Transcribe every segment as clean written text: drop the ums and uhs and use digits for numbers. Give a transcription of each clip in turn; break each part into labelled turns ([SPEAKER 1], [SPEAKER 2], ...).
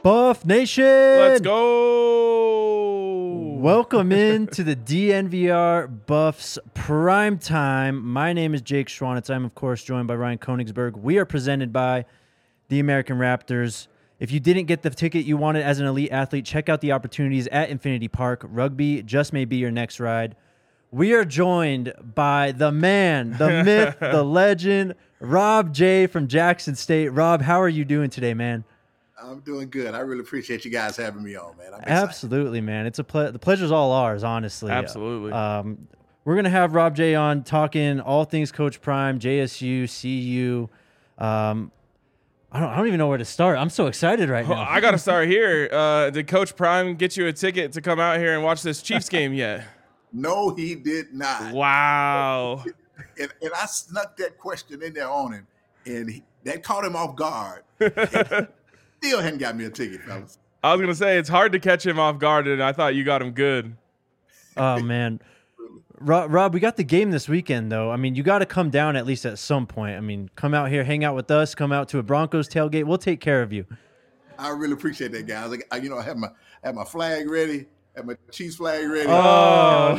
[SPEAKER 1] Buff Nation!
[SPEAKER 2] Let's go!
[SPEAKER 1] Welcome in to the DNVR Buffs Prime Time. My name is Jake Schwanitz. I'm, of course, joined by Ryan Koenigsberg. We are presented by the American Raptors. If you didn't get the ticket you wanted as an elite athlete, check out the opportunities at Infinity Park. Rugby just may be your next ride. We are joined by the man, the myth, the legend, Rob J. from Jackson State. Rob, how are you doing today, man?
[SPEAKER 3] I'm doing good. I really appreciate you guys having me on, man.
[SPEAKER 1] Absolutely, man. It's the pleasure's all ours, honestly.
[SPEAKER 2] Absolutely.
[SPEAKER 1] We're gonna have Rob J on talking all things Coach Prime, JSU, CU. I don't even know where to start. I'm so excited right now.
[SPEAKER 2] I got to start here. Did Coach Prime get you a ticket to come out here and watch this Chiefs game yet?
[SPEAKER 3] No, he did not.
[SPEAKER 2] Wow.
[SPEAKER 3] And I snuck that question in there on him, and that caught him off guard. Still hadn't got me a ticket, fellas.
[SPEAKER 2] I was going to say, it's hard to catch him off guard, and I thought you got him good.
[SPEAKER 1] Oh, man. Rob, we got the game this weekend, though. I mean, you got to come down at least at some point. I mean, come out here, hang out with us, come out to a Broncos tailgate. We'll take care of you.
[SPEAKER 3] I really appreciate that, guys. I have my flag ready. Have my Chiefs flag ready.
[SPEAKER 2] Oh,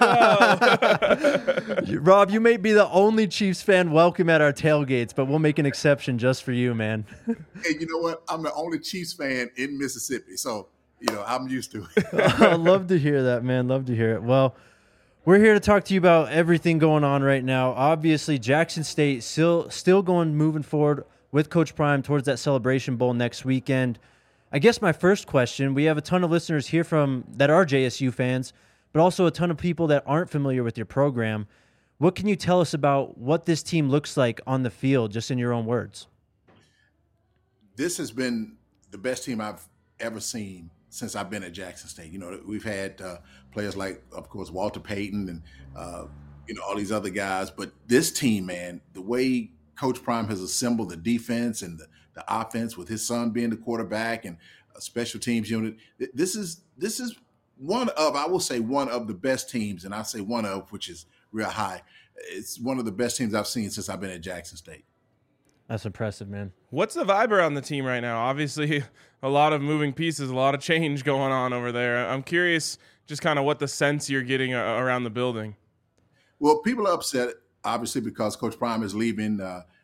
[SPEAKER 2] no.
[SPEAKER 1] Rob, you may be the only Chiefs fan welcome at our tailgates, but we'll make an exception just for you, man.
[SPEAKER 3] Hey, you know what? I'm the only Chiefs fan in Mississippi, so, I'm used to it.
[SPEAKER 1] I'd love to hear that, man. Love to hear it. Well, we're here to talk to you about everything going on right now. Obviously, Jackson State still moving forward with Coach Prime towards that Celebration Bowl next weekend. I guess my first question, we have a ton of listeners here that are JSU fans, but also a ton of people that aren't familiar with your program. What can you tell us about what this team looks like on the field, just in your own words?
[SPEAKER 3] This has been the best team I've ever seen since I've been at Jackson State. We've had players like, of course, Walter Payton and, all these other guys. But this team, man, the way Coach Prime has assembled the defense and the offense with his son being the quarterback and a special teams unit. This is one of the best teams, and I say one of, which is real high. It's one of the best teams I've seen since I've been at Jackson State.
[SPEAKER 1] That's impressive, man.
[SPEAKER 2] What's the vibe around the team right now? Obviously, a lot of moving pieces, a lot of change going on over there. I'm curious just kind of what the sense you're getting around the building.
[SPEAKER 3] Well, people are upset, obviously, because Coach Prime is leaving.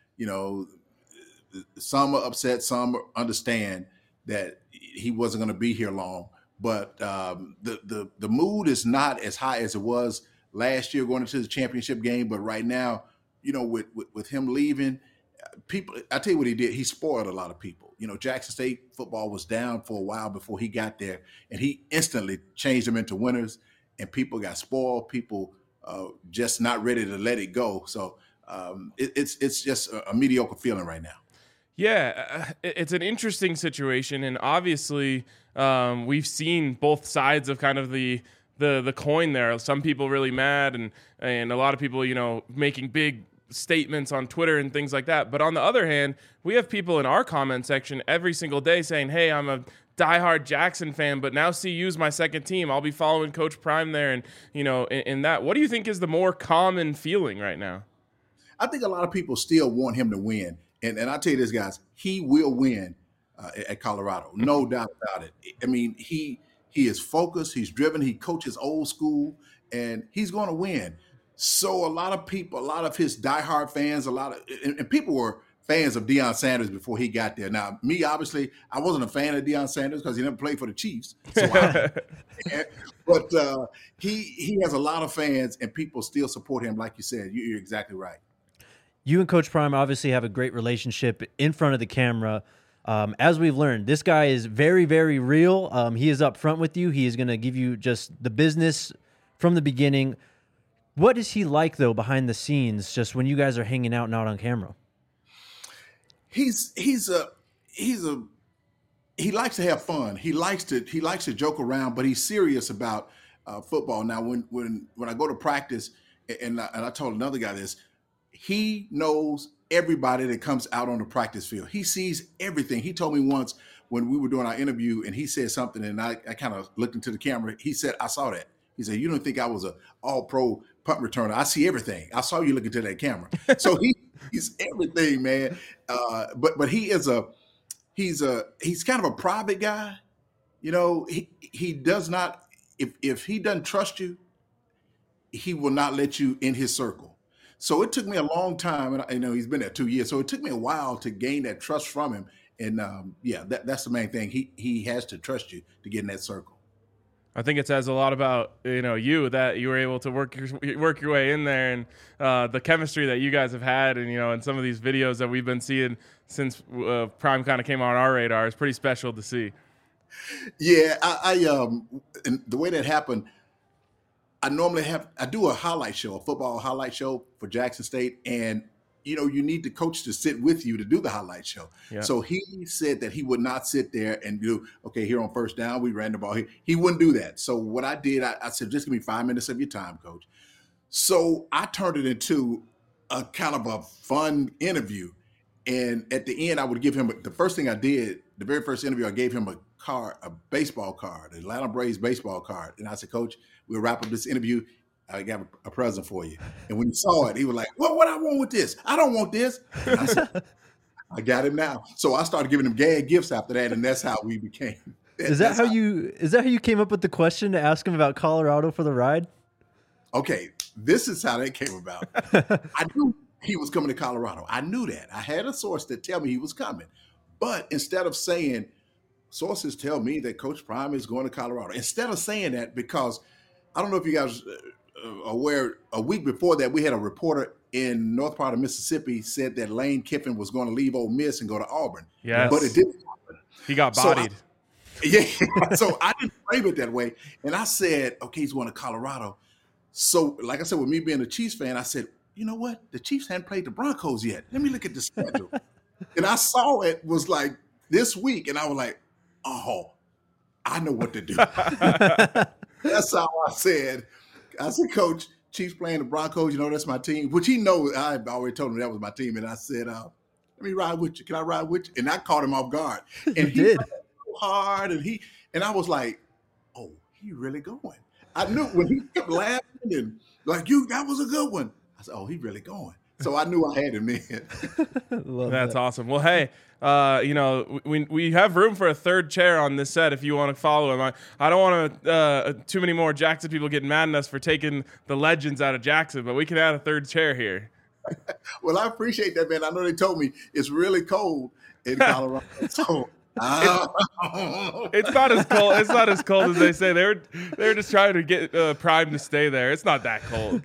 [SPEAKER 3] Some are upset, some understand that he wasn't going to be here long. But the mood is not as high as it was last year going into the championship game. But right now, with him leaving, people, I tell you what he did. He spoiled a lot of people. Jackson State football was down for a while before he got there, and he instantly changed them into winners. And people got spoiled. People just not ready to let it go. So it's just a mediocre feeling right now.
[SPEAKER 2] Yeah, it's an interesting situation, and obviously we've seen both sides of kind of the coin there. Some people really mad, and a lot of people, making big statements on Twitter and things like that. But on the other hand, we have people in our comment section every single day saying, hey, I'm a diehard Jackson fan, but now CU's my second team. I'll be following Coach Prime there, and, in that. What do you think is the more common feeling right now?
[SPEAKER 3] I think a lot of people still want him to win. And I tell you this, guys, he will win at Colorado. No doubt about it. I mean, he is focused. He's driven. He coaches old school, and he's going to win. So a lot of people, a lot of his diehard fans, and people were fans of Deion Sanders before he got there. Now, me, obviously, I wasn't a fan of Deion Sanders because he never played for the Chiefs. So but he has a lot of fans, and people still support him. Like you said, you're exactly right.
[SPEAKER 1] You and Coach Prime obviously have a great relationship in front of the camera. As we've learned, this guy is very, very real. He is up front with you. He is going to give you just the business from the beginning. What is he like, though, behind the scenes, just when you guys are hanging out, not on camera?
[SPEAKER 3] He likes to have fun. He likes to joke around, but he's serious about football. Now, when I go to practice, and I told another guy this, he knows everybody that comes out on the practice field. He sees everything. He told me once when we were doing our interview and he said something and I kind of looked into the camera. He said, I saw that. He said, you don't think I was an all-pro punt returner? I see everything. I saw you look into that camera. So he's everything, man. But he is he's kind of a private guy. You know, he does not, if he doesn't trust you, he will not let you in his circle. So it took me a long time, and you know he's been there 2 years. So it took me a while to gain that trust from him. And yeah, that's the main thing. He has to trust you to get in that circle.
[SPEAKER 2] I think it says a lot about you that you were able to work your way in there, and the chemistry that you guys have had, and and some of these videos that we've been seeing since Prime kind of came on our radar is pretty special to see.
[SPEAKER 3] Yeah, and the way that happened, I do a highlight show, a football highlight show for Jackson State, and you need the coach to sit with you to do the highlight show. Yeah. So he said that he would not sit there and do, okay, here on first down, we ran the ball here. He wouldn't do that. So what I did, I said, just give me 5 minutes of your time, coach. So I turned it into a kind of a fun interview. And at the end, I would give him, the first thing I did, the very first interview, I gave him a baseball card, the Atlanta Braves baseball card. And I said, Coach, we'll wrap up this interview. I got a present for you. And when he saw it, he was like, well, what I want with this? I don't want this. And I said, I got it now. So I started giving him gag gifts after that, and that's how we became.
[SPEAKER 1] Is that how you came up with the question to ask him about Colorado for the ride?
[SPEAKER 3] Okay, this is how that came about. I knew he was coming to Colorado. I knew that. I had a source that tell me he was coming. But instead of saying, sources tell me that Coach Prime is going to Colorado, instead of saying that, because I don't know if you guys aware, a week before that, we had a reporter in north part of Mississippi said that Lane Kiffin was going to leave Ole Miss and go to Auburn.
[SPEAKER 2] Yes.
[SPEAKER 3] But it didn't happen.
[SPEAKER 2] He got bodied.
[SPEAKER 3] So I didn't frame it that way. And I said, okay, he's going to Colorado. So like I said, with me being a Chiefs fan, I said, you know what? The Chiefs hadn't played the Broncos yet. Let me look at the schedule. And I saw it was like this week, and I was like, oh, I know what to do. That's how I said, Coach, Chiefs playing the Broncos, that's my team, which he knows. I already told him that was my team. And I said, let me ride with you. Can I ride with you? And I caught him off guard. And he did so hard. And I was like, oh, he really going. I knew when he kept laughing and like, that was a good one. I said, oh, he really going. So I knew I had him in.
[SPEAKER 2] That's awesome. Well, hey, we have room for a third chair on this set if you want to follow him. I don't want too many more Jackson people getting mad at us for taking the legends out of Jackson, but we can add a third chair here.
[SPEAKER 3] Well, I appreciate that, man. I know they told me it's really cold in Colorado. So
[SPEAKER 2] it's not as cold. It's not as cold as they say. They're just trying to get Prime to stay there. It's not that cold.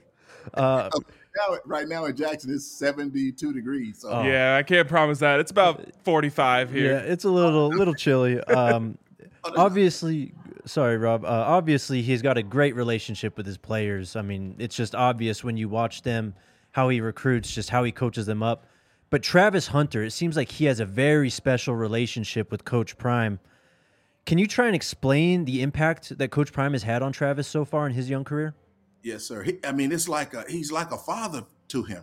[SPEAKER 3] Right now in Jackson, it's 72 degrees. So.
[SPEAKER 2] Yeah, I can't promise that. It's about 45 here.
[SPEAKER 1] Yeah, it's a little chilly. Obviously, sorry, Rob. Obviously, he's got a great relationship with his players. I mean, it's just obvious when you watch them, how he recruits, just how he coaches them up. But Travis Hunter, it seems like he has a very special relationship with Coach Prime. Can you try and explain the impact that Coach Prime has had on Travis so far in his young career?
[SPEAKER 3] Yes, sir. It's like he's like a father to him.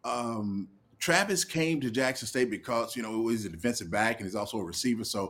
[SPEAKER 3] Travis came to Jackson State because, he's a defensive back and he's also a receiver. So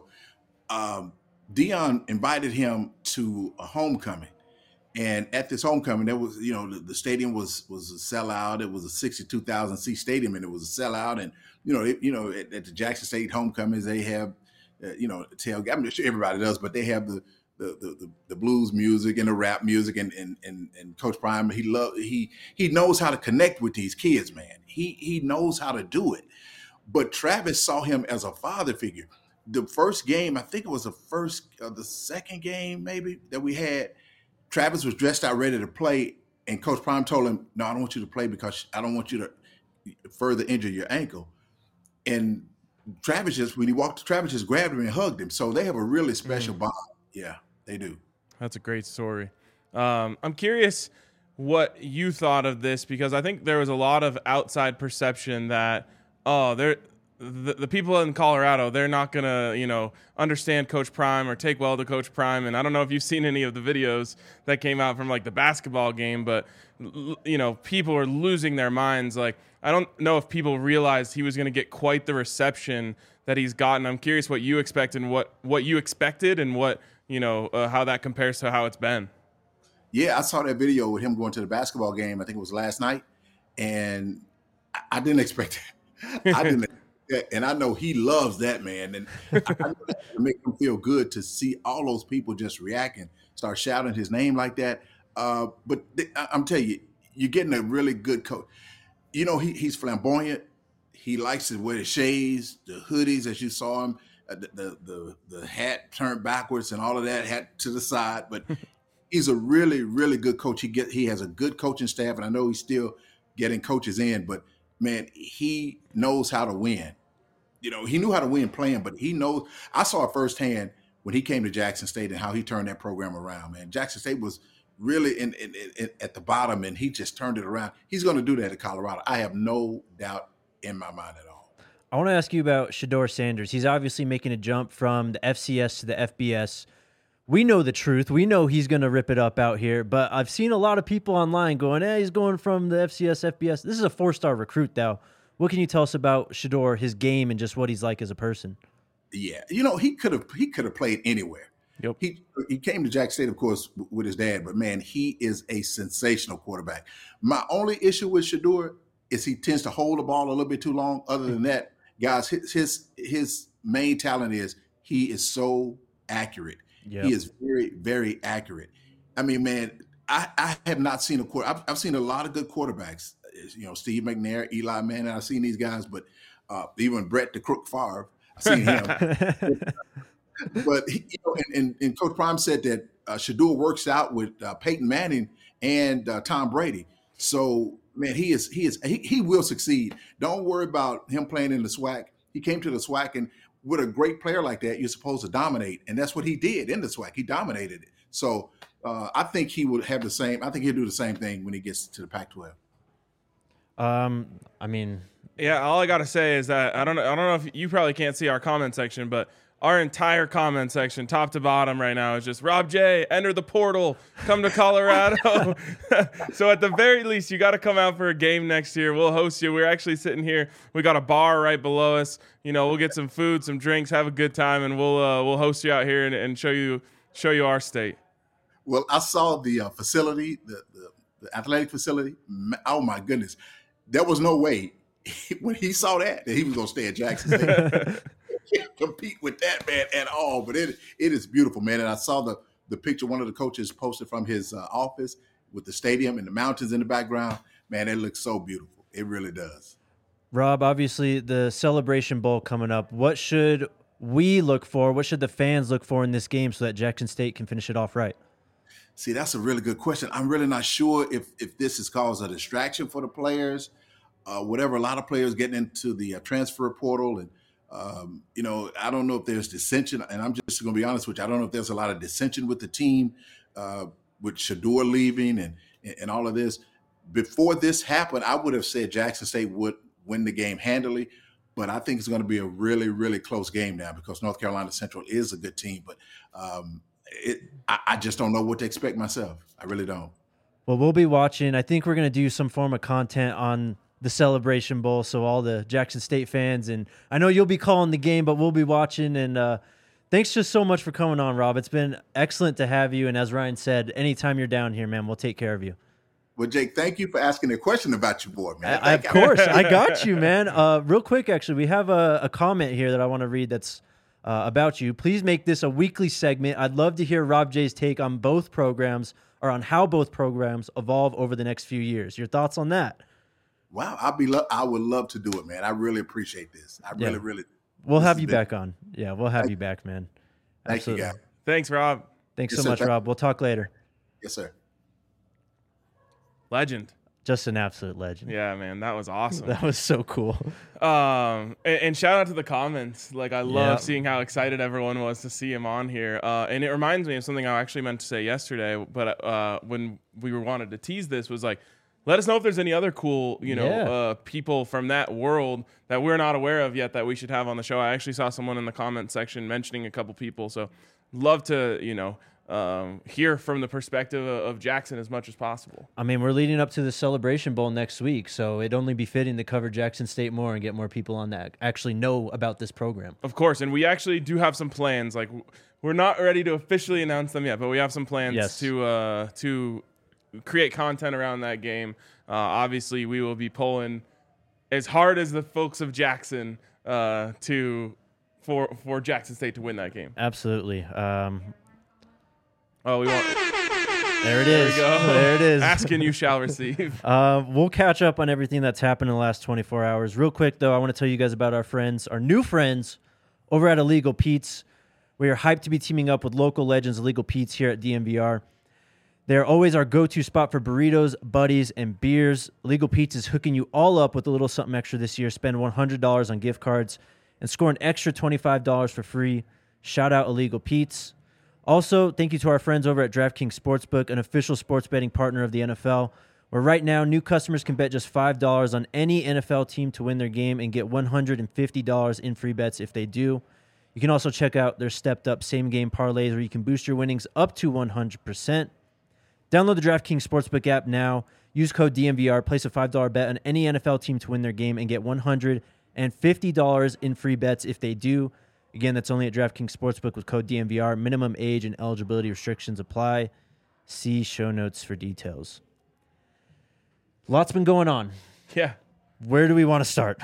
[SPEAKER 3] Deion invited him to a homecoming. And at this homecoming, there was, the stadium was a sellout. It was a 62,000 seat stadium, and it was a sellout. And, at the Jackson State homecomings, they have, tailgate. I'm sure everybody does, but they have the blues music and the rap music, and Coach Prime, he knows how to connect with these kids, man. He knows how to do it. But Travis saw him as a father figure. The first game, I think it was the second game maybe that we had, Travis was dressed out ready to play, and Coach Prime told him, no, I don't want you to play because I don't want you to further injure your ankle. And when he walked, Travis just grabbed him and hugged him. So they have a really special bond. Yeah, they do. That's
[SPEAKER 2] a great story. I'm curious what you thought of this, because I think there was a lot of outside perception that, the people in Colorado, they're not going to, understand Coach Prime or take well to Coach Prime. And I don't know if you've seen any of the videos that came out from like the basketball game, but, people are losing their minds. Like, I don't know if people realized he was going to get quite the reception that he's gotten. I'm curious what you expect and what you expected and what, how that compares to how it's been.
[SPEAKER 3] Yeah, I saw that video with him going to the basketball game. I think it was last night. And I didn't expect it. Yeah, and I know he loves that, man. And I know that make him feel good to see all those people just reacting, start shouting his name like that. I'm telling you, you're getting a really good coach. You know, he's flamboyant. He likes to wear the shades, the hoodies, as you saw him, the hat turned backwards and all of that, hat to the side. But he's a really, really good coach. He has a good coaching staff, and I know he's still getting coaches in. But man, he knows how to win. You know, he knew how to win playing, but he knows. I saw it firsthand when he came to Jackson State and how he turned that program around. Man, Jackson State was really at the bottom, and he just turned it around. He's going to do that at Colorado. I have no doubt in my mind at all.
[SPEAKER 1] I want to ask you about Shedeur Sanders. He's obviously making a jump from the FCS to the FBS. We know the truth. We know he's going to rip it up out here, but I've seen a lot of people online going, he's going from the FCS, FBS. This is a 4-star recruit, though. What can you tell us about Shedeur, his game, and just what he's like as a person?
[SPEAKER 3] Yeah, you know, he could have played anywhere.
[SPEAKER 1] Yep.
[SPEAKER 3] He came to Jackson State, of course, with his dad, but man, he is a sensational quarterback. My only issue with Shedeur is he tends to hold the ball a little bit too long. Other than that, guys, his main talent is he is so accurate. Yep. He is very, very accurate. I mean, man, I have not seen a quarter. I've seen a lot of good quarterbacks. You know, Steve McNair, Eli Manning. I've seen these guys, but even Brett the Crook Favre, I've seen him. But you know, and Coach Prime said that Shedeur works out with Peyton Manning and Tom Brady. So man, he will succeed. Don't worry about him playing in the SWAC. He came to the SWAC, and with a great player like that, you're supposed to dominate, and that's what he did in the SWAC. He dominated it. So I think he would have the same. I think he'll do the same thing when he gets to the Pac-12.
[SPEAKER 1] I mean,
[SPEAKER 2] yeah. All I gotta say is that I don't know if you probably can't see our comment section, but our entire comment section, top to bottom, right now is just Rob J. Enter the portal, come to Colorado. So at the very least, you got to come out for a game next year. We'll host you. We're actually sitting here. We got a bar right below us. You know, we'll get some food, some drinks, have a good time, and we'll host you out here and show you our state.
[SPEAKER 3] Well, I saw the facility, the athletic facility. Oh my goodness. There was no way when he saw that he was going to stay at Jackson State. Can't compete with that, man, at all. But it is beautiful, man. And I saw the picture one of the coaches posted from his office with the stadium and the mountains in the background. Man, it looks so beautiful. It really does.
[SPEAKER 1] Rob, obviously the Celebration Bowl coming up. What should we look for? What should the fans look for in this game so that Jackson State can finish it off right?
[SPEAKER 3] See, that's a really good question. I'm really not sure if this has caused a distraction for the players, whatever. A lot of players getting into the transfer portal, and you know, I don't know if there's dissension. And I'm just going to be honest with you. I don't know if there's a lot of dissension with the team, with Shedeur leaving and all of this. Before this happened, I would have said Jackson State would win the game handily, but I think it's going to be a really, really close game now because North Carolina Central is a good team. But I just don't know what to expect myself. I really don't.
[SPEAKER 1] Well, we'll be watching. I think we're going to do some form of content on the Celebration Bowl, so all the Jackson State fans, and I know you'll be calling the game, but we'll be watching. And thanks just so much for coming on, Rob. It's been excellent to have you. And as Ryan said, anytime you're down here, man, we'll take care of you.
[SPEAKER 3] Well, Jake, thank you for asking a question about your boy, man.
[SPEAKER 1] Of course. I got you, man. Real quick, actually, we have a comment here that I want to read that's about you. Please make this a weekly segment. I'd love to hear Rob J's take on both programs, or on how both programs evolve over the next few years. Your thoughts on that?
[SPEAKER 3] Wow, I would love to do it, man. I really appreciate this. Really.
[SPEAKER 1] We'll have you back on. Yeah, we'll have you back, man.
[SPEAKER 3] Thank you, guys.
[SPEAKER 2] Thanks, Rob.
[SPEAKER 1] Thanks so much, Rob. We'll talk later.
[SPEAKER 3] Yes, sir.
[SPEAKER 2] Legend.
[SPEAKER 1] Just an absolute legend.
[SPEAKER 2] Yeah, man, that was awesome.
[SPEAKER 1] That was so cool.
[SPEAKER 2] And shout out to the comments. Like, I love seeing how excited everyone was to see him on here. And it reminds me of something I actually meant to say yesterday, but when we wanted to tease this, was like, let us know if there's any other cool, people from that world that we're not aware of yet that we should have on the show. I actually saw someone in the comment section mentioning a couple people, so love to, hear from the perspective of Jackson as much as possible.
[SPEAKER 1] I mean, we're leading up to the Celebration Bowl next week, so it'd only be fitting to cover Jackson State more and get more people on that actually know about this program.
[SPEAKER 2] Of course, and we actually do have some plans. Like, we're not ready to officially announce them yet, but we have some plans to create content around that game. Obviously, we will be pulling as hard as the folks of Jackson for Jackson State to win that game.
[SPEAKER 1] Absolutely.
[SPEAKER 2] Oh, we want.
[SPEAKER 1] There it is. There it is.
[SPEAKER 2] Ask and you shall receive.
[SPEAKER 1] We'll catch up on everything that's happened in the last 24 hours. Real quick, though, I want to tell you guys about our new friends over at Illegal Pete's. We are hyped to be teaming up with local legends Illegal Pete's here at DNVR. They're always our go-to spot for burritos, buddies, and beers. Illegal Pete's is hooking you all up with a little something extra this year. Spend $100 on gift cards and score an extra $25 for free. Shout out Illegal Pete's. Also, thank you to our friends over at DraftKings Sportsbook, an official sports betting partner of the NFL, where right now new customers can bet just $5 on any NFL team to win their game and get $150 in free bets if they do. You can also check out their stepped-up same-game parlays where you can boost your winnings up to 100%. Download the DraftKings Sportsbook app now. Use code DNVR. Place a $5 bet on any NFL team to win their game and get $150 in free bets if they do. Again, that's only at DraftKings Sportsbook with code DNVR. Minimum age and eligibility restrictions apply. See show notes for details. Lots been going on.
[SPEAKER 2] Yeah.
[SPEAKER 1] Where do we want to start?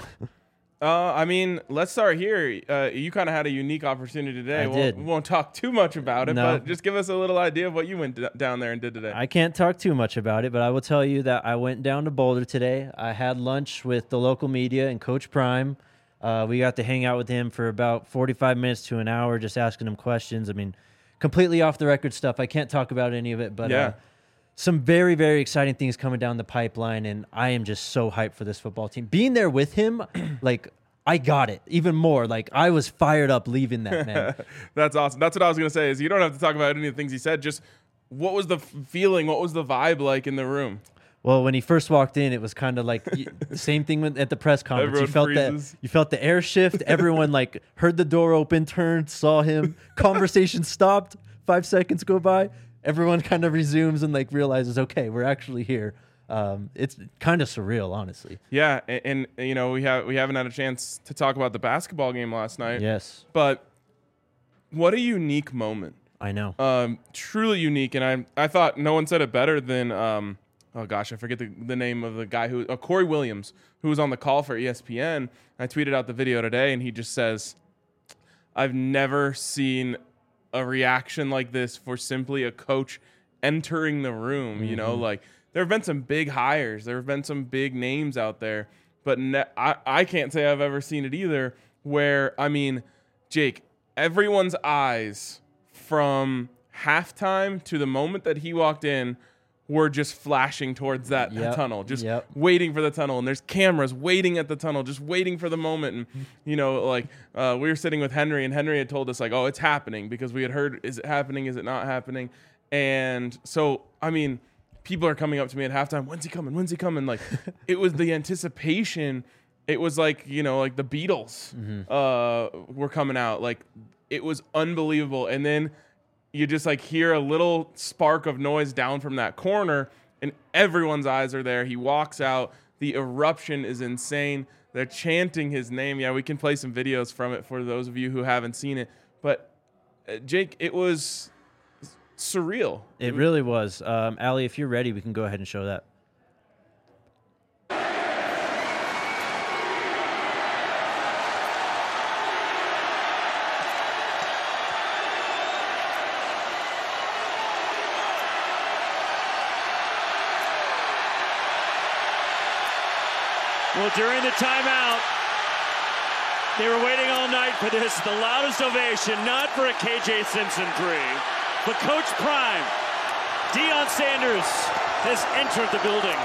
[SPEAKER 2] I mean, let's start here. You kind of had a unique opportunity today. We won't talk too much about it, but just give us a little idea of what you went down there and did today.
[SPEAKER 1] I can't talk too much about it, but I will tell you that I went down to Boulder today. I had lunch with the local media and Coach Prime. We got to hang out with him for about 45 minutes to an hour, just asking him questions. I mean, completely off the record stuff. I can't talk about any of it, but some very, very exciting things coming down the pipeline, and I am just so hyped for this football team. Being there with him, like, I got it even more. Like, I was fired up leaving that, man.
[SPEAKER 2] That's awesome. That's what I was going to say is you don't have to talk about any of the things he said. Just what was the feeling? What was the vibe like in the room?
[SPEAKER 1] Well, when he first walked in, it was kind of like the same thing at the press conference. You felt the air shift. Everyone like heard the door open, turned, saw him. Conversation stopped. 5 seconds go by. Everyone kind of resumes and like realizes, okay, we're actually here. It's kind of surreal, honestly.
[SPEAKER 2] Yeah, and you know we haven't had a chance to talk about the basketball game last night.
[SPEAKER 1] Yes,
[SPEAKER 2] but what a unique moment.
[SPEAKER 1] I know.
[SPEAKER 2] Truly unique, and I thought no one said it better than oh gosh, I forget the name of the guy who Corey Williams, who was on the call for ESPN. I tweeted out the video today, and he just says, "I've never seen a reaction like this for simply a coach entering the room." Mm-hmm. You know, like there have been some big hires, there have been some big names out there, but I can't say I've ever seen it either. Where I mean, Jake, everyone's eyes from halftime to the moment that he walked in were just flashing towards that tunnel, just waiting for the tunnel. And there's cameras waiting at the tunnel, just waiting for the moment. And, you know, like we were sitting with Henry, and Henry had told us, like, oh, it's happening, because we had heard, is it happening? Is it not happening? And so, I mean, people are coming up to me at halftime, when's he coming? When's he coming? Like, it was the anticipation. It was like, you know, like the Beatles were coming out. Like, it was unbelievable. And then you just like hear a little spark of noise down from that corner, and everyone's eyes are there. He walks out. The eruption is insane. They're chanting his name. Yeah, we can play some videos from it for those of you who haven't seen it. But, Jake, it was surreal.
[SPEAKER 1] It really was. Allie, if you're ready, we can go ahead and show that.
[SPEAKER 4] Well, during the timeout, they were waiting all night for this. The loudest ovation, not for a KJ Simpson three, but Coach Prime, Deion Sanders, has entered the building.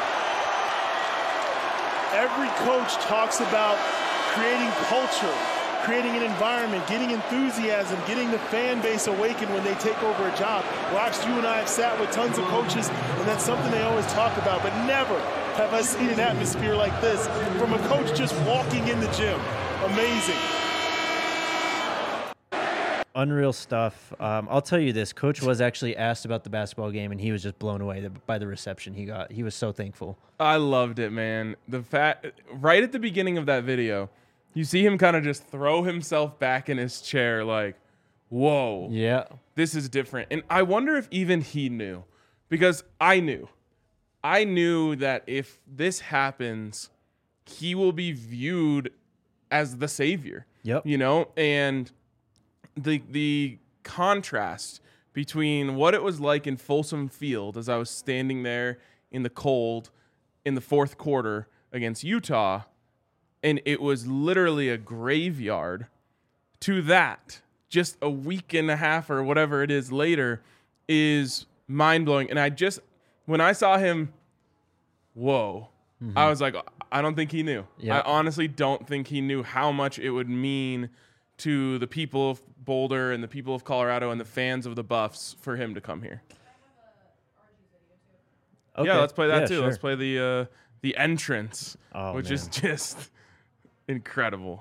[SPEAKER 5] Every coach talks about creating culture, creating an environment, getting enthusiasm, getting the fan base awakened when they take over a job. Rox, you and I have sat with tons of coaches, and that's something they always talk about, but never have I seen an atmosphere like this from a coach just walking in the gym. Amazing.
[SPEAKER 1] Unreal stuff. I'll tell you this. Coach was actually asked about the basketball game, and he was just blown away by the reception he got. He was so thankful.
[SPEAKER 2] I loved it, man. The fact, right at the beginning of that video, you see him kind of just throw himself back in his chair like, whoa.
[SPEAKER 1] Yeah.
[SPEAKER 2] This is different. And I wonder if even he knew, because I knew. I knew that if this happens, he will be viewed as the savior.
[SPEAKER 1] Yep.
[SPEAKER 2] You know, and the contrast between what it was like in Folsom Field as I was standing there in the cold in the fourth quarter against Utah, and it was literally a graveyard, to that just a week and a half or whatever it is later is mind-blowing. And when I saw him, whoa, I was like, I don't think he knew.
[SPEAKER 1] Yep.
[SPEAKER 2] I honestly don't think he knew how much it would mean to the people of Boulder and the people of Colorado and the fans of the Buffs for him to come here.
[SPEAKER 1] Okay.
[SPEAKER 2] Yeah, let's play that too.
[SPEAKER 1] Sure.
[SPEAKER 2] Let's play the entrance, which is
[SPEAKER 1] man.
[SPEAKER 2] just incredible.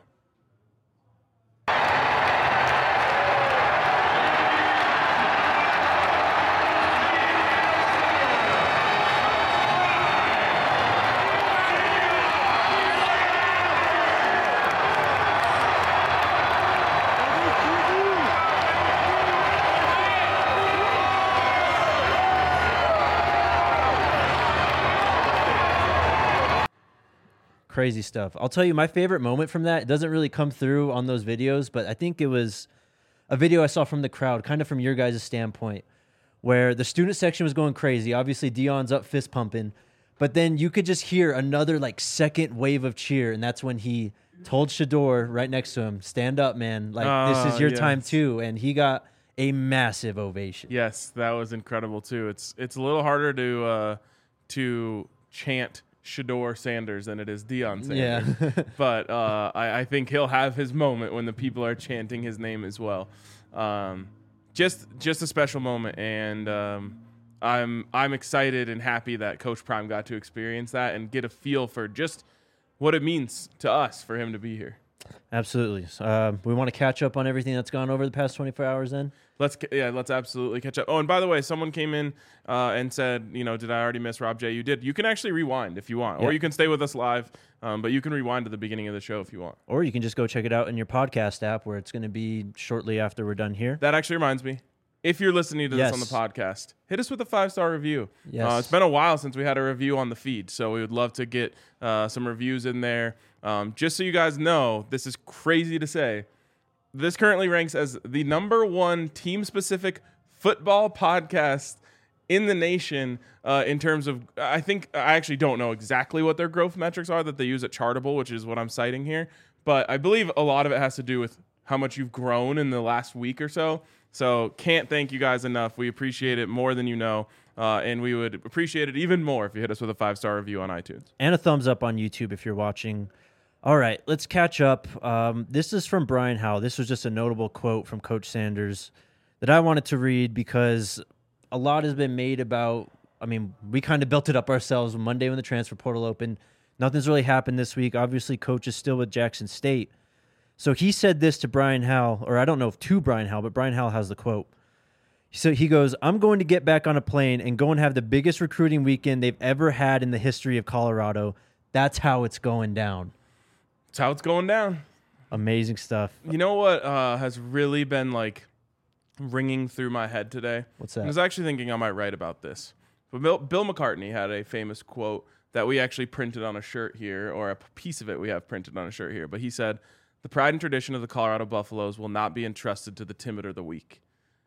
[SPEAKER 1] Crazy stuff. I'll tell you my favorite moment from that. It doesn't really come through on those videos, but I think it was a video I saw from the crowd, kind of from your guys' standpoint, where the student section was going crazy. Obviously, Deion's up fist pumping, but then you could just hear another like second wave of cheer, and that's when he told Shedeur right next to him, "Stand up, man! Like this is your time too." And he got a massive ovation.
[SPEAKER 2] Yes, that was incredible too. It's a little harder to chant Shedeur Sanders than it is Deion Sanders.
[SPEAKER 1] Yeah.
[SPEAKER 2] But I think he'll have his moment when the people are chanting his name as well. Just a special moment, and I'm excited and happy that Coach Prime got to experience that and get a feel for just what it means to us for him to be here.
[SPEAKER 1] Absolutely. We want to catch up on everything that's gone over the past 24 hours then?
[SPEAKER 2] Let's absolutely catch up. Oh, and by the way, someone came in and said, did I already miss Rob J? You did. You can actually rewind if you want, or you can stay with us live, but you can rewind to the beginning of the show if you want.
[SPEAKER 1] Or you can just go check it out in your podcast app where it's going to be shortly after we're done here.
[SPEAKER 2] That actually reminds me. If you're listening to this on the podcast, hit us with a 5-star review.
[SPEAKER 1] Yes.
[SPEAKER 2] It's been a while since we had a review on the feed, so we would love to get some reviews in there. Just so you guys know, this is crazy to say. This currently ranks as the #1 team-specific football podcast in the nation in terms of, I actually don't know exactly what their growth metrics are that they use at Chartable, which is what I'm citing here. But I believe a lot of it has to do with how much you've grown in the last week or so. So can't thank you guys enough. We appreciate it more than you know. And we would appreciate it even more if you hit us with a 5-star review on iTunes.
[SPEAKER 1] And a thumbs up on YouTube if you're watching. All right, let's catch up. This is from Brian Howell. This was just a notable quote from Coach Sanders that I wanted to read because a lot has been made about, we kind of built it up ourselves Monday when the transfer portal opened. Nothing's really happened this week. Obviously, Coach is still with Jackson State. So he said this to Brian Howell, or I don't know if to Brian Howell, but Brian Howell has the quote. So he goes, "I'm going to get back on a plane and go and have the biggest recruiting weekend they've ever had in the history of Colorado. That's how it's going down."
[SPEAKER 2] That's how it's going down.
[SPEAKER 1] Amazing stuff.
[SPEAKER 2] You know what has really been ringing through my head today?
[SPEAKER 1] What's that?
[SPEAKER 2] I was actually thinking I might write about this. But Bill McCartney had a famous quote that we actually printed on a shirt here, or a piece of it we have printed on a shirt here. But he said, "The pride and tradition of the Colorado Buffaloes will not be entrusted to the timid or the weak."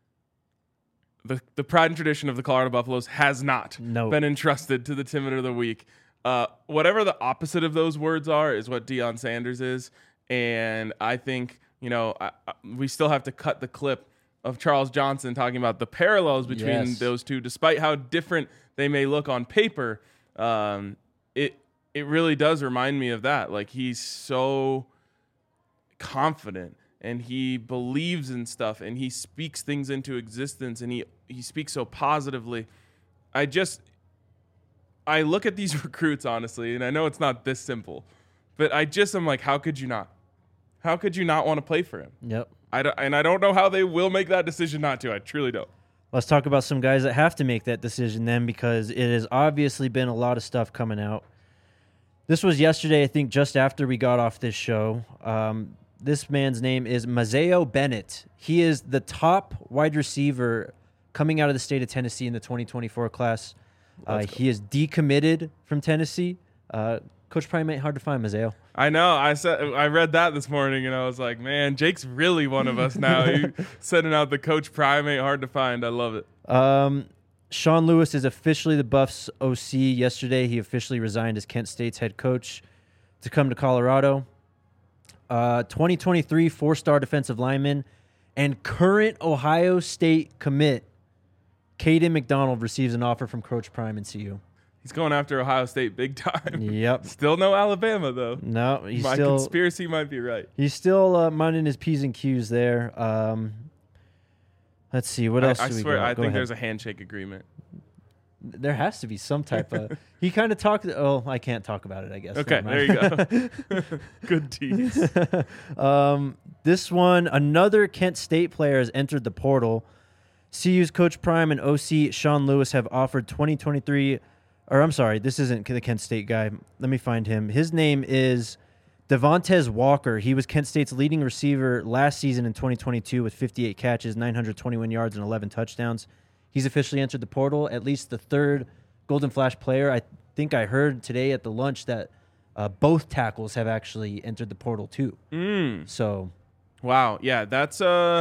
[SPEAKER 2] The pride and tradition of the Colorado Buffaloes has not been entrusted to the timid or the weak. Whatever the opposite of those words are is what Deion Sanders is. And I think, we still have to cut the clip of Charles Johnson talking about the parallels between those two, despite how different they may look on paper. It really does remind me of that. Like, he's so confident and he believes in stuff and he speaks things into existence and he speaks so positively. I look at these recruits, honestly, and I know it's not this simple, but I'm like, how could you not? How could you not want to play for him?
[SPEAKER 1] Yep.
[SPEAKER 2] I don't know how they will make that decision not to. I truly don't.
[SPEAKER 1] Let's talk about some guys that have to make that decision then, because it has obviously been a lot of stuff coming out. This was yesterday, I think, just after we got off this show. This man's name is Mazeo Bennett. He is the top wide receiver coming out of the state of Tennessee in the 2024 class. He is decommitted from Tennessee. Coach Prime ain't hard to find, Mazeo.
[SPEAKER 2] I know. I read that this morning, and I was like, man, Jake's really one of us now. He sending out the Coach Prime ain't hard to find. I love it.
[SPEAKER 1] Sean Lewis is officially the Buffs OC. Yesterday, he officially resigned as Kent State's head coach to come to Colorado. 2023 four-star defensive lineman and current Ohio State commit Caden McDonald receives an offer from Coach Prime and CU.
[SPEAKER 2] He's going after Ohio State big time.
[SPEAKER 1] Yep.
[SPEAKER 2] Still no Alabama, though.
[SPEAKER 1] No, he's
[SPEAKER 2] My
[SPEAKER 1] still
[SPEAKER 2] conspiracy might be right.
[SPEAKER 1] He's still minding his P's and Q's there. Let's see. What else
[SPEAKER 2] I
[SPEAKER 1] do we
[SPEAKER 2] swear,
[SPEAKER 1] got?
[SPEAKER 2] I
[SPEAKER 1] Go
[SPEAKER 2] think
[SPEAKER 1] ahead.
[SPEAKER 2] there's a handshake agreement.
[SPEAKER 1] There has to be some type of. He kind of talked. Oh, I can't talk about it, I guess.
[SPEAKER 2] Okay,
[SPEAKER 1] Never
[SPEAKER 2] there
[SPEAKER 1] mind.
[SPEAKER 2] you go. Good tease.
[SPEAKER 1] This one, another Kent State player has entered the portal. CU's Coach Prime and OC Sean Lewis have offered 2023. Or I'm sorry, this isn't the Kent State guy. Let me find him. His name is Devontae Walker. He was Kent State's leading receiver last season in 2022 with 58 catches, 921 yards, and 11 touchdowns. He's officially entered the portal, at least the third Golden Flash player. I think I heard today at the lunch that both tackles have actually entered the portal too. So,
[SPEAKER 2] Wow. Yeah, that's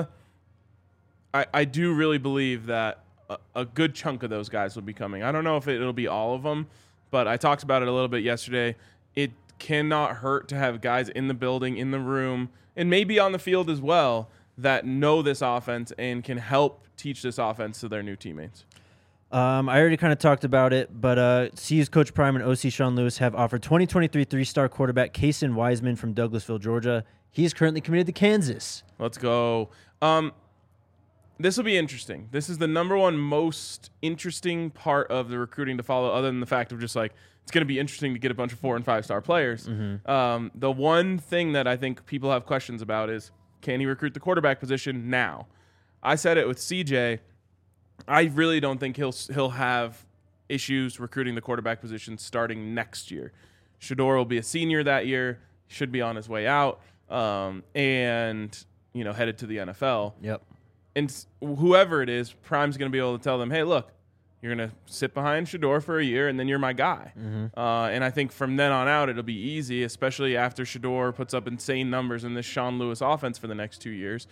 [SPEAKER 2] I do really believe that a good chunk of those guys will be coming. I don't know if it'll be all of them, but I talked about it a little bit yesterday. It cannot hurt to have guys in the building, in the room, and maybe on the field as well that know this offense and can help teach this offense to their new teammates.
[SPEAKER 1] I already kind of talked about it, but CU's Coach Prime and OC Sean Lewis have offered 2023 three-star quarterback Kason Wiseman from Douglasville, Georgia. He is currently committed to Kansas.
[SPEAKER 2] Let's go. This will be interesting. This is the number one most interesting part of the recruiting to follow, other than the fact of just like it's going to be interesting to get a bunch of 4- and 5-star players. The one thing that I think people have questions about is, can he recruit the quarterback position now? I said it with CJ. I really don't think he'll have issues recruiting the quarterback position starting next year. Shedeur will be a senior that year, should be on his way out, and headed to the NFL.
[SPEAKER 1] Yep.
[SPEAKER 2] And whoever it is, Prime's going to be able to tell them, hey, look, you're going to sit behind Shedeur for a year, and then you're my guy. And I think from then on out, it'll be easy, especially after Shedeur puts up insane numbers in this Sean Lewis offense for the next 2 years.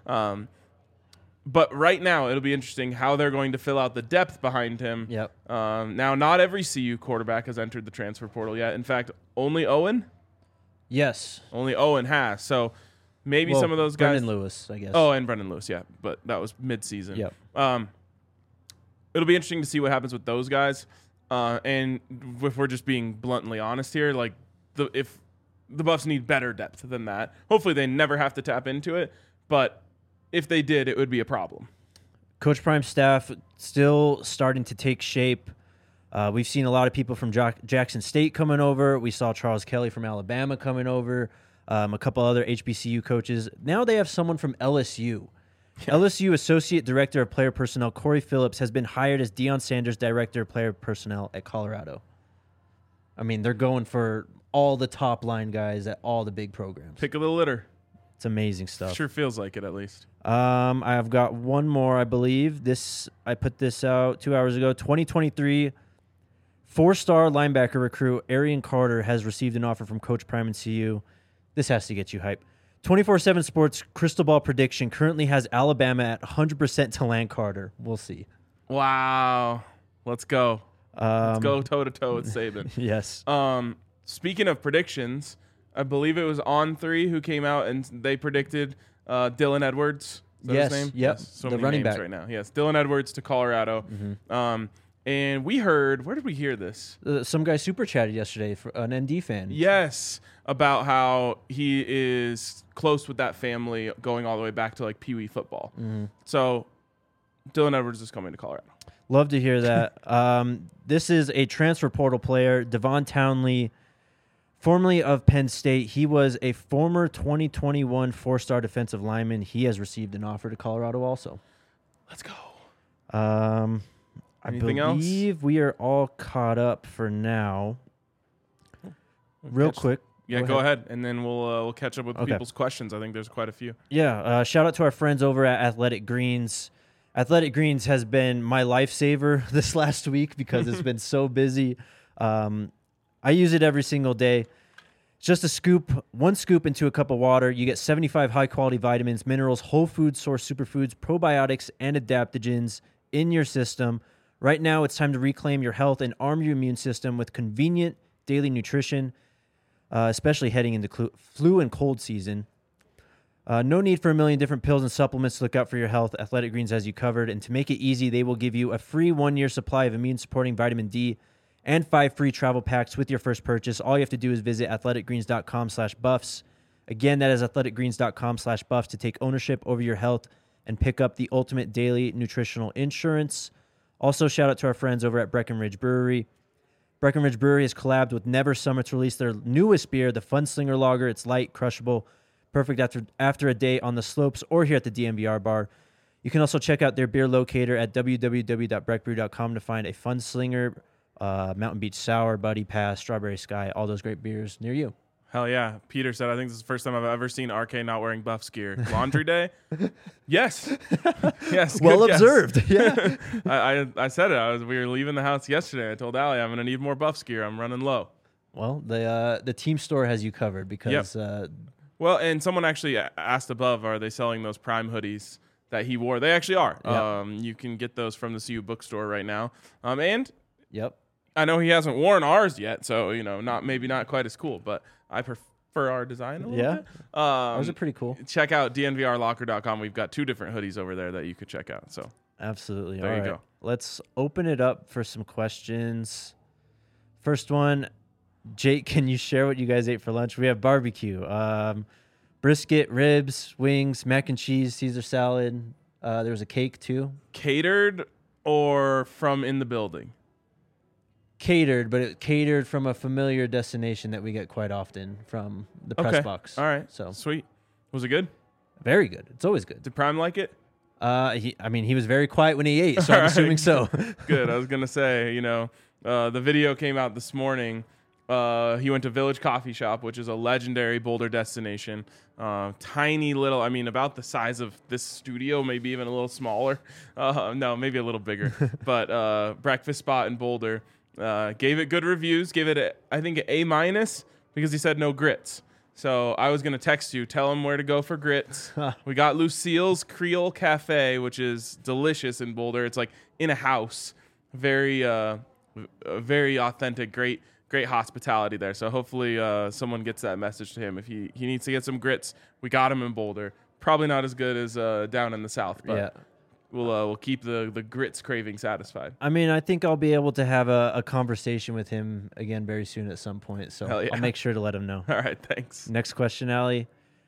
[SPEAKER 2] But right now, it'll be interesting how they're going to fill out the depth behind him.
[SPEAKER 1] Yep.
[SPEAKER 2] Now, not every CU quarterback has entered the transfer portal yet. In fact, only Owen?
[SPEAKER 1] Yes.
[SPEAKER 2] Only Owen has. So maybe some of those guys.
[SPEAKER 1] Brendan Lewis, I guess.
[SPEAKER 2] Oh, and Brendan Lewis, yeah. But that was mid-season.
[SPEAKER 1] Yep.
[SPEAKER 2] It'll be interesting to see what happens with those guys. And if we're just being bluntly honest here, like if the Buffs need better depth than that, hopefully they never have to tap into it. But if they did, it would be a problem.
[SPEAKER 1] Coach Prime's staff still starting to take shape. We've seen a lot of people from Jackson State coming over. We saw Charles Kelly from Alabama coming over. A couple other HBCU coaches. Now they have someone from LSU. Yeah. LSU Associate Director of Player Personnel Corey Phillips has been hired as Deion Sanders Director of Player Personnel at Colorado. I mean, they're going for all the top line guys at all the big programs.
[SPEAKER 2] Pick of the litter.
[SPEAKER 1] It's amazing stuff.
[SPEAKER 2] Sure feels like it, at least.
[SPEAKER 1] I've got one more, I believe. I put this out 2 hours ago. 2023 4-star linebacker recruit Arian Carter has received an offer from Coach Prime and CU. This has to get you hype. 24/7 Sports Crystal Ball prediction currently has Alabama at 100% to land Carter. We'll see.
[SPEAKER 2] Wow. Let's go. Let's go toe-to-toe with Saban.
[SPEAKER 1] Yes.
[SPEAKER 2] Speaking of predictions, I believe it was On3 who came out and they predicted Dylan Edwards. Is that his name?
[SPEAKER 1] Yep.
[SPEAKER 2] Yes. So
[SPEAKER 1] the
[SPEAKER 2] many
[SPEAKER 1] running
[SPEAKER 2] names
[SPEAKER 1] back
[SPEAKER 2] right now. Yes, Dylan Edwards to Colorado. And we heard, where did we hear this?
[SPEAKER 1] Some guy super chatted yesterday, for an ND fan.
[SPEAKER 2] Yes, about how he is close with that family going all the way back to like Pee Wee football. So Dylan Edwards is coming to Colorado.
[SPEAKER 1] Love to hear that. This is a transfer portal player, Devon Townley, formerly of Penn State. He was a former 2021 4-star defensive lineman. He has received an offer to Colorado also.
[SPEAKER 2] Let's go.
[SPEAKER 1] Anything
[SPEAKER 2] else?
[SPEAKER 1] believe we are all caught up for now. Real quick.
[SPEAKER 2] Yeah, go ahead. And then we'll catch up with people's questions. I think there's quite a few.
[SPEAKER 1] Yeah, shout out to our friends over at Athletic Greens. Athletic Greens has been my lifesaver this last week because it's been so busy. I use it every single day. It's just a scoop, 1 scoop into a cup of water. You get 75 high-quality vitamins, minerals, whole food source superfoods, probiotics, and adaptogens in your system. Right now, it's time to reclaim your health and arm your immune system with convenient daily nutrition, especially heading into flu and cold season. No need for a million different pills and supplements to look out for your health. Athletic Greens has you covered. And to make it easy, they will give you a free 1-year supply of immune-supporting vitamin D and 5 free travel packs with your first purchase. All you have to do is visit athleticgreens.com/buffs. Again, that is athleticgreens.com/buffs to take ownership over your health and pick up the ultimate daily nutritional insurance. Also, shout out to our friends over at Breckenridge Brewery. Breckenridge Brewery has collabed with Never Summer to release their newest beer, the Funslinger Lager. It's light, crushable, perfect after a day on the slopes or here at the DNVR bar. You can also check out their beer locator at www.breckbrew.com to find a Funslinger, Mountain Beach Sour, Buddy Pass, Strawberry Sky, all those great beers near you.
[SPEAKER 2] Hell yeah. Peter said, I think this is the first time I've ever seen RK not wearing Buffs gear. Laundry day? Yes. Yes.
[SPEAKER 1] Well observed. Yeah.
[SPEAKER 2] I said it. We were leaving the house yesterday. I told Allie I'm going to need more Buffs gear. I'm running low.
[SPEAKER 1] Well, the team store has you covered because...
[SPEAKER 2] Yep. Well, and someone actually asked above, are they selling those Prime hoodies that he wore? They actually are.
[SPEAKER 1] Yep.
[SPEAKER 2] You can get those from the CU bookstore right now. And
[SPEAKER 1] yep.
[SPEAKER 2] I know he hasn't worn ours yet, so, maybe not quite as cool, but I prefer our design a little bit.
[SPEAKER 1] Those are pretty cool.
[SPEAKER 2] Check out dnvrlocker.com. We've got 2 different hoodies over there that you could check out. So
[SPEAKER 1] absolutely.
[SPEAKER 2] There you
[SPEAKER 1] right.
[SPEAKER 2] go.
[SPEAKER 1] Let's open it up for some questions. First one, Jake, can you share what you guys ate for lunch? We have barbecue, brisket, ribs, wings, mac and cheese, Caesar salad. There was a cake too.
[SPEAKER 2] Catered or from in the building?
[SPEAKER 1] Catered, but it catered from a familiar destination that we get quite often from the press box.
[SPEAKER 2] All right.
[SPEAKER 1] So
[SPEAKER 2] sweet. Was it good?
[SPEAKER 1] Very good. It's always good.
[SPEAKER 2] Did Prime like it?
[SPEAKER 1] He was very quiet when he ate, so I'm assuming so.
[SPEAKER 2] Good. I was going to say, the video came out this morning. He went to Village Coffee Shop, which is a legendary Boulder destination. Tiny little, about the size of this studio, maybe even a little smaller. No, maybe a little bigger. But breakfast spot in Boulder. Gave it good reviews. Gave it, I think, an A- because he said no grits. So I was going to text you, tell him where to go for grits. We got Lucille's Creole Cafe, which is delicious in Boulder. It's like in a house. Very authentic, great hospitality there. So hopefully someone gets that message to him. If he needs to get some grits, we got him in Boulder. Probably not as good as down in the south, but
[SPEAKER 1] Yeah.
[SPEAKER 2] we'll keep the grits craving satisfied.
[SPEAKER 1] I think I'll be able to have a conversation with him again very soon at some point. So
[SPEAKER 2] Hell yeah.
[SPEAKER 1] I'll make sure to let him know.
[SPEAKER 2] All right, thanks.
[SPEAKER 1] Next question, Allie.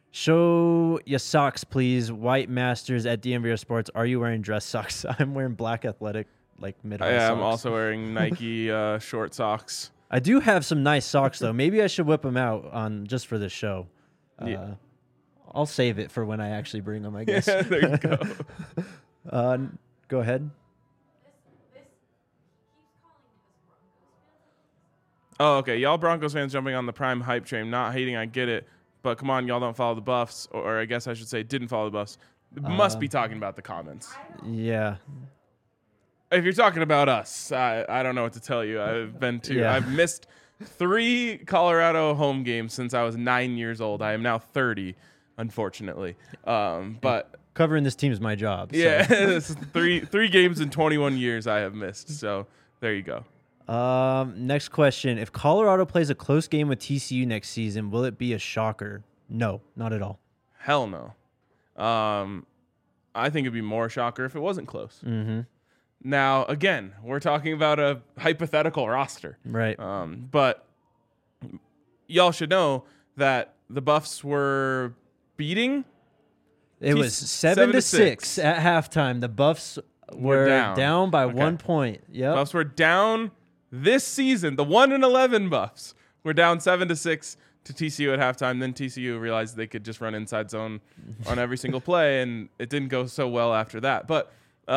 [SPEAKER 1] Show your socks, please. White Masters at DMVR Sports. Are you wearing dress socks? I'm wearing black athletic, mid-high socks.
[SPEAKER 2] I'm also wearing Nike short socks.
[SPEAKER 1] I do have some nice socks, though. Maybe I should whip them out just for this show.
[SPEAKER 2] Yeah.
[SPEAKER 1] I'll save it for when I actually bring them, I guess.
[SPEAKER 2] Yeah, there you go.
[SPEAKER 1] Go ahead.
[SPEAKER 2] Oh, okay. Y'all Broncos fans jumping on the Prime hype train. Not hating, I get it. But come on, y'all don't follow the Buffs. Or I guess I should say didn't follow the Buffs. Must be talking about the comments.
[SPEAKER 1] Yeah.
[SPEAKER 2] If you're talking about us, I don't know what to tell you. I've missed 3 Colorado home games since I was 9 years old. I am now 30, unfortunately. But
[SPEAKER 1] Covering this team is my job. So.
[SPEAKER 2] yeah, it's three games in 21 years I have missed. So there you go.
[SPEAKER 1] Next question. If Colorado plays a close game with TCU next season, will it be a shocker? No, not at all.
[SPEAKER 2] Hell no. I think it'd be more shocker if it wasn't close.
[SPEAKER 1] Mm-hmm.
[SPEAKER 2] Now, again, we're talking about a hypothetical roster.
[SPEAKER 1] Right.
[SPEAKER 2] But y'all should know that the Buffs were beating.
[SPEAKER 1] It was 7-6 at halftime. The Buffs were down by 1 point. Yep.
[SPEAKER 2] Buffs were down this season. The 1-11 Buffs were down 7-6 to TCU at halftime. Then TCU realized they could just run inside zone on every single play, and it didn't go so well after that. But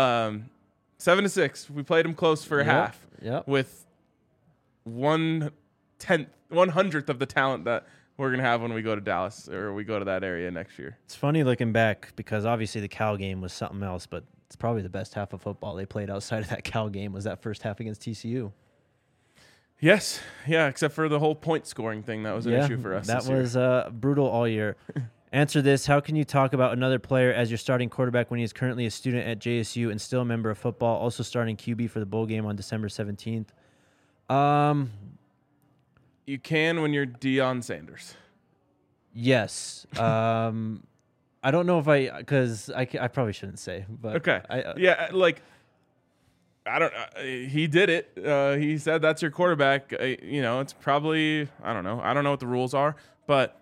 [SPEAKER 2] 7-6, we played them close for a half with 1/100th of the talent that we're going to have when we go to Dallas or we go to that area next year.
[SPEAKER 1] It's funny looking back because obviously the Cal game was something else, but it's probably the best half of football they played outside of that Cal game was that first half against TCU.
[SPEAKER 2] Yes, yeah, except for the whole point scoring thing. That was an issue for us.
[SPEAKER 1] That
[SPEAKER 2] this year.
[SPEAKER 1] was brutal all year. Answer this. How can you talk about another player as your starting quarterback when he is currently a student at JSU and still a member of football, also starting QB for the bowl game on December 17th?
[SPEAKER 2] You can when you're Deion Sanders.
[SPEAKER 1] Yes. I don't know if because I probably shouldn't say, but
[SPEAKER 2] Okay. Yeah, like, I don't. He did it. He said that's your quarterback. It's probably, I don't know. I don't know what the rules are, but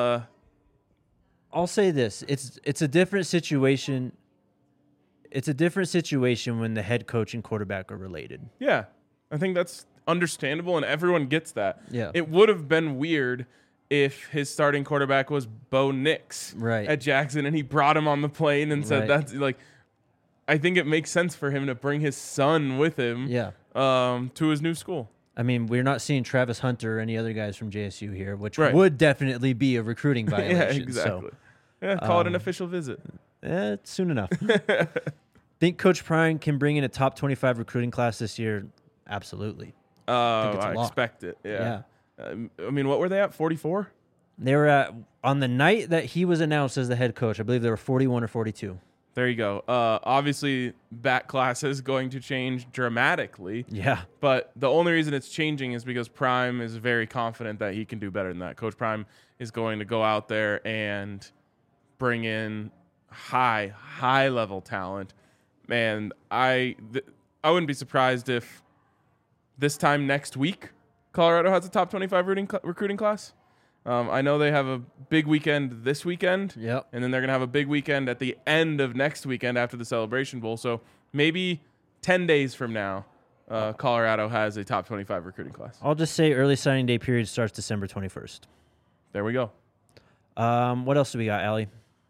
[SPEAKER 1] I'll say this: it's a different situation. It's a different situation when the head coach and quarterback are related.
[SPEAKER 2] yeah, I think that's understandable, and everyone gets that.
[SPEAKER 1] Yeah.
[SPEAKER 2] It would have been weird if his starting quarterback was Bo Nix
[SPEAKER 1] Right.
[SPEAKER 2] at Jackson, and he brought him on the plane and said
[SPEAKER 1] Right.
[SPEAKER 2] that's like. I think it makes sense for him to bring his son with him.
[SPEAKER 1] Yeah.
[SPEAKER 2] To his new school.
[SPEAKER 1] I mean, we're not seeing Travis Hunter or any other guys from JSU here, which
[SPEAKER 2] Right.
[SPEAKER 1] would definitely be a recruiting violation.
[SPEAKER 2] Yeah, exactly. Yeah, call it an official visit.
[SPEAKER 1] Soon enough. Think Coach Prime can bring in a top 25 recruiting class this year? Absolutely. it's a
[SPEAKER 2] I
[SPEAKER 1] lock.
[SPEAKER 2] expect it. Yeah. I mean, what were they at? 44?
[SPEAKER 1] They were on the night that he was announced as the head coach, I believe they were 41 or 42.
[SPEAKER 2] There you go. Obviously, that class is going to change dramatically.
[SPEAKER 1] Yeah.
[SPEAKER 2] But the only reason it's changing is because Prime is very confident that he can do better than that. Coach Prime is going to go out there and bring in high level talent. And I wouldn't be surprised if this time next week Colorado has a top 25 recruiting class. I know they have a big weekend this weekend.
[SPEAKER 1] Yep.
[SPEAKER 2] And then they're going to have a big weekend at the end of next weekend after the Celebration Bowl. So maybe 10 days from now, Colorado has a top 25 recruiting class.
[SPEAKER 1] I'll just say early signing day period starts December 21st.
[SPEAKER 2] There we go.
[SPEAKER 1] What else do we got, Allie?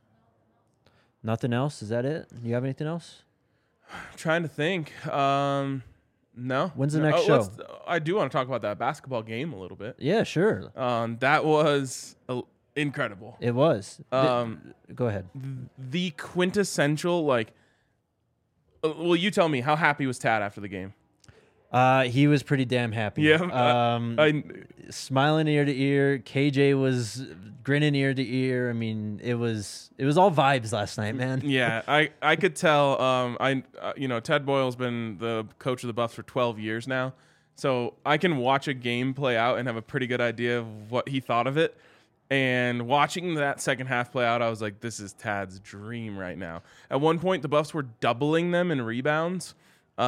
[SPEAKER 1] Nothing else? Is that it? You have anything else?
[SPEAKER 2] I'm trying to think. No.
[SPEAKER 1] When's the next show?
[SPEAKER 2] I do want to talk about that basketball game a little bit.
[SPEAKER 1] Yeah, sure.
[SPEAKER 2] That was incredible.
[SPEAKER 1] It was. Go ahead.
[SPEAKER 2] The quintessential, well, you tell me, how happy was Tad after the game?
[SPEAKER 1] He was pretty damn happy.
[SPEAKER 2] Yeah.
[SPEAKER 1] Smiling ear to ear. KJ was grinning ear to ear. I mean, it was all vibes last night, man.
[SPEAKER 2] Yeah, I could tell. Ted Boyle's been the coach of the Buffs for 12 years now, so I can watch a game play out and have a pretty good idea of what he thought of it. And watching that second half play out, I was like, this is Tad's dream right now. At one point, the Buffs were doubling them in rebounds.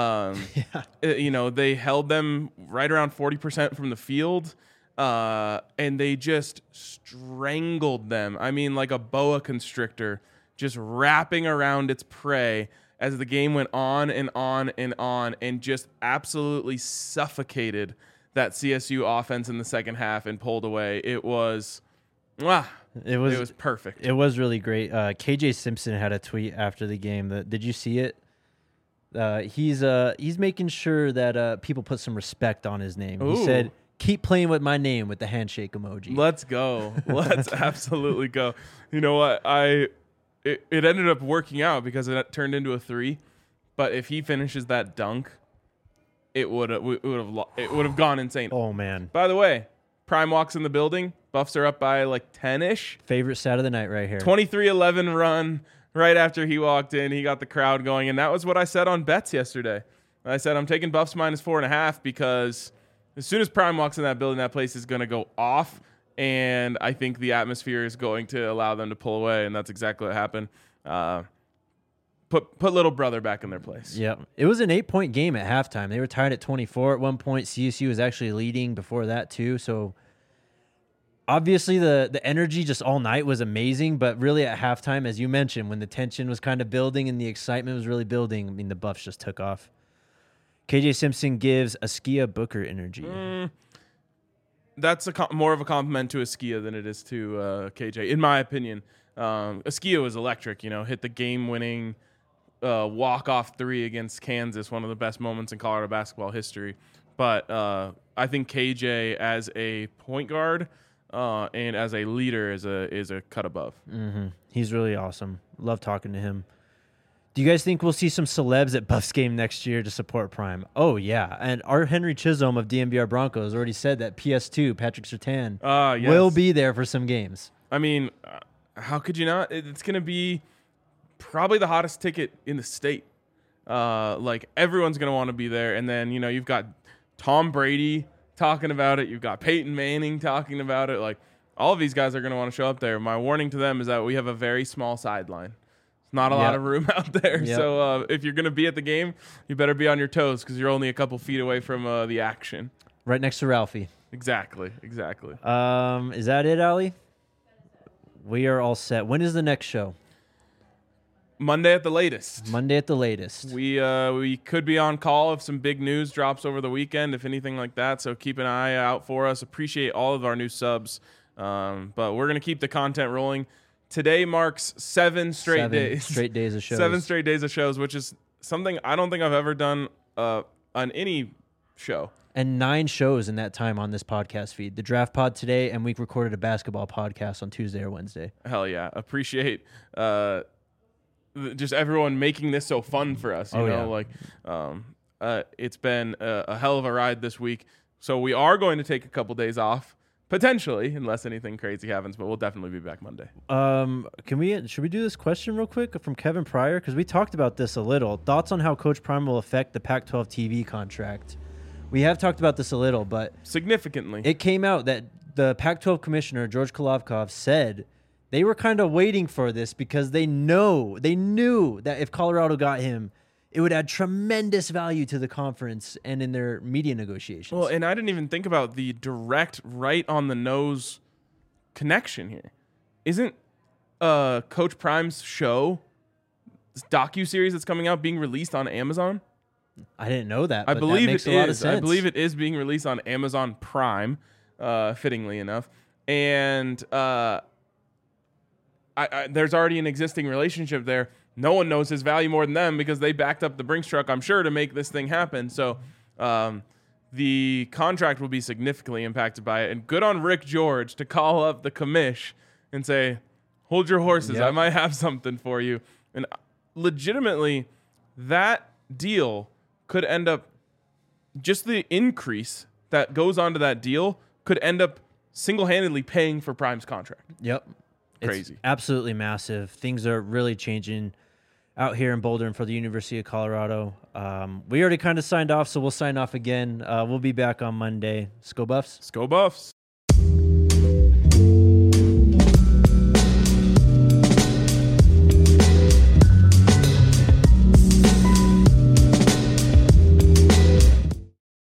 [SPEAKER 2] They held them right around 40% from the field, and they just strangled them. I mean, like a boa constrictor, just wrapping around its prey as the game went on and on and on, and just absolutely suffocated that CSU offense in the second half and pulled away. It was perfect.
[SPEAKER 1] It was really great. KJ Simpson had a tweet after the game. Did you see it? He's making sure that people put some respect on his name.
[SPEAKER 2] Ooh.
[SPEAKER 1] He said, "Keep playing with my name," with the handshake emoji.
[SPEAKER 2] Let's go. Let's absolutely go. You know what? It ended up working out because it turned into a 3. But if he finishes that dunk, it would have gone insane.
[SPEAKER 1] Oh man!
[SPEAKER 2] By the way, Prime walks in the building. Buffs are up by like 10-ish.
[SPEAKER 1] Favorite stat of the night right here.
[SPEAKER 2] 23-11 run. Right after he walked in, he got the crowd going, and that was what I said on bets yesterday. I said I'm taking Buffs -4.5 because as soon as Prime walks in that building, that place is going to go off, and I think the atmosphere is going to allow them to pull away, and that's exactly what happened. Put little brother back in their place.
[SPEAKER 1] Yeah, it was an 8-point game at halftime. They were tied at 24 at one point. CSU was actually leading before that too, so. Obviously, the energy just all night was amazing, but really at halftime, as you mentioned, when the tension was kind of building and the excitement was really building, I mean, the Buffs just took off. KJ Simpson gives Askia Booker energy.
[SPEAKER 2] That's more of a compliment to Askia than it is to KJ, in my opinion. Askia was electric, hit the game-winning walk-off 3 against Kansas, one of the best moments in Colorado basketball history. But I think KJ as a point guard and as a leader is a cut above.
[SPEAKER 1] Mm-hmm. He's really awesome. Love talking to him. Do you guys think we'll see some celebs at Buffs game next year to support Prime? Oh, yeah. And our Henry Chisholm of DMVR Broncos already said that PS2, Patrick Surtain,
[SPEAKER 2] Yes.
[SPEAKER 1] will be there for some games.
[SPEAKER 2] I mean, how could you not? It's going to be probably the hottest ticket in the state. Like, everyone's going to want to be there. And then, you've got Tom Brady talking about it. You've got Peyton Manning talking about it. Like, all of these guys are going to want to show up there. My warning to them is that we have a very small sideline. Not a lot of room out there.
[SPEAKER 1] Yep.
[SPEAKER 2] So if you're going to be at the game, you better be on your toes because you're only a couple feet away from the action.
[SPEAKER 1] Right next to Ralphie.
[SPEAKER 2] Exactly.
[SPEAKER 1] Is that it, Ali? We are all set. When is the next show?
[SPEAKER 2] Monday at the latest.
[SPEAKER 1] Monday at the latest.
[SPEAKER 2] We could be on call if some big news drops over the weekend, if anything like that. So keep an eye out for us. Appreciate all of our new subs. But we're going to keep the content rolling. Today marks 7 straight days.
[SPEAKER 1] 7 straight days of shows.
[SPEAKER 2] 7 straight days of shows, which is something I don't think I've ever done on any show.
[SPEAKER 1] And 9 shows in that time on this podcast feed. The Draft Pod today, and we recorded a basketball podcast on Tuesday or Wednesday.
[SPEAKER 2] Hell yeah. Appreciate just everyone making this so fun for us. You know, like it's been a hell of a ride this week. So we are going to take a couple days off. Potentially, unless anything crazy happens, but we'll definitely be back Monday.
[SPEAKER 1] Should we do this question real quick from Kevin Pryor? Because we talked about this a little. Thoughts on how Coach Prime will affect the Pac-12 TV contract? We have talked about this a little, but
[SPEAKER 2] significantly,
[SPEAKER 1] it came out that the Pac-12 commissioner, George Kolovkov, said they were kind of waiting for this because they knew that if Colorado got him, it would add tremendous value to the conference and in their media negotiations.
[SPEAKER 2] Well, and I didn't even think about the direct, right on the nose connection here. Isn't Coach Prime's show, this docuseries that's coming out, being released on Amazon?
[SPEAKER 1] I didn't know that.
[SPEAKER 2] I
[SPEAKER 1] but
[SPEAKER 2] believe
[SPEAKER 1] that makes
[SPEAKER 2] it
[SPEAKER 1] a lot of
[SPEAKER 2] is.
[SPEAKER 1] sense.
[SPEAKER 2] I believe it is being released on Amazon Prime, fittingly enough. And there's already an existing relationship there. No one knows his value more than them because they backed up the Brinks truck, I'm sure, to make this thing happen. So the contract will be significantly impacted by it. And good on Rick George to call up the commish and say, hold your horses.
[SPEAKER 1] Yep.
[SPEAKER 2] I might have something for you. And legitimately, that deal could end up, just the increase that goes onto that deal could end up single-handedly paying for Prime's contract.
[SPEAKER 1] Yep.
[SPEAKER 2] Crazy.
[SPEAKER 1] It's absolutely massive. Things are really changing out here in Boulder and for the University of Colorado. We already kind of signed off, so we'll sign off again. We'll be back on Monday. Go Buffs.
[SPEAKER 2] Go Buffs.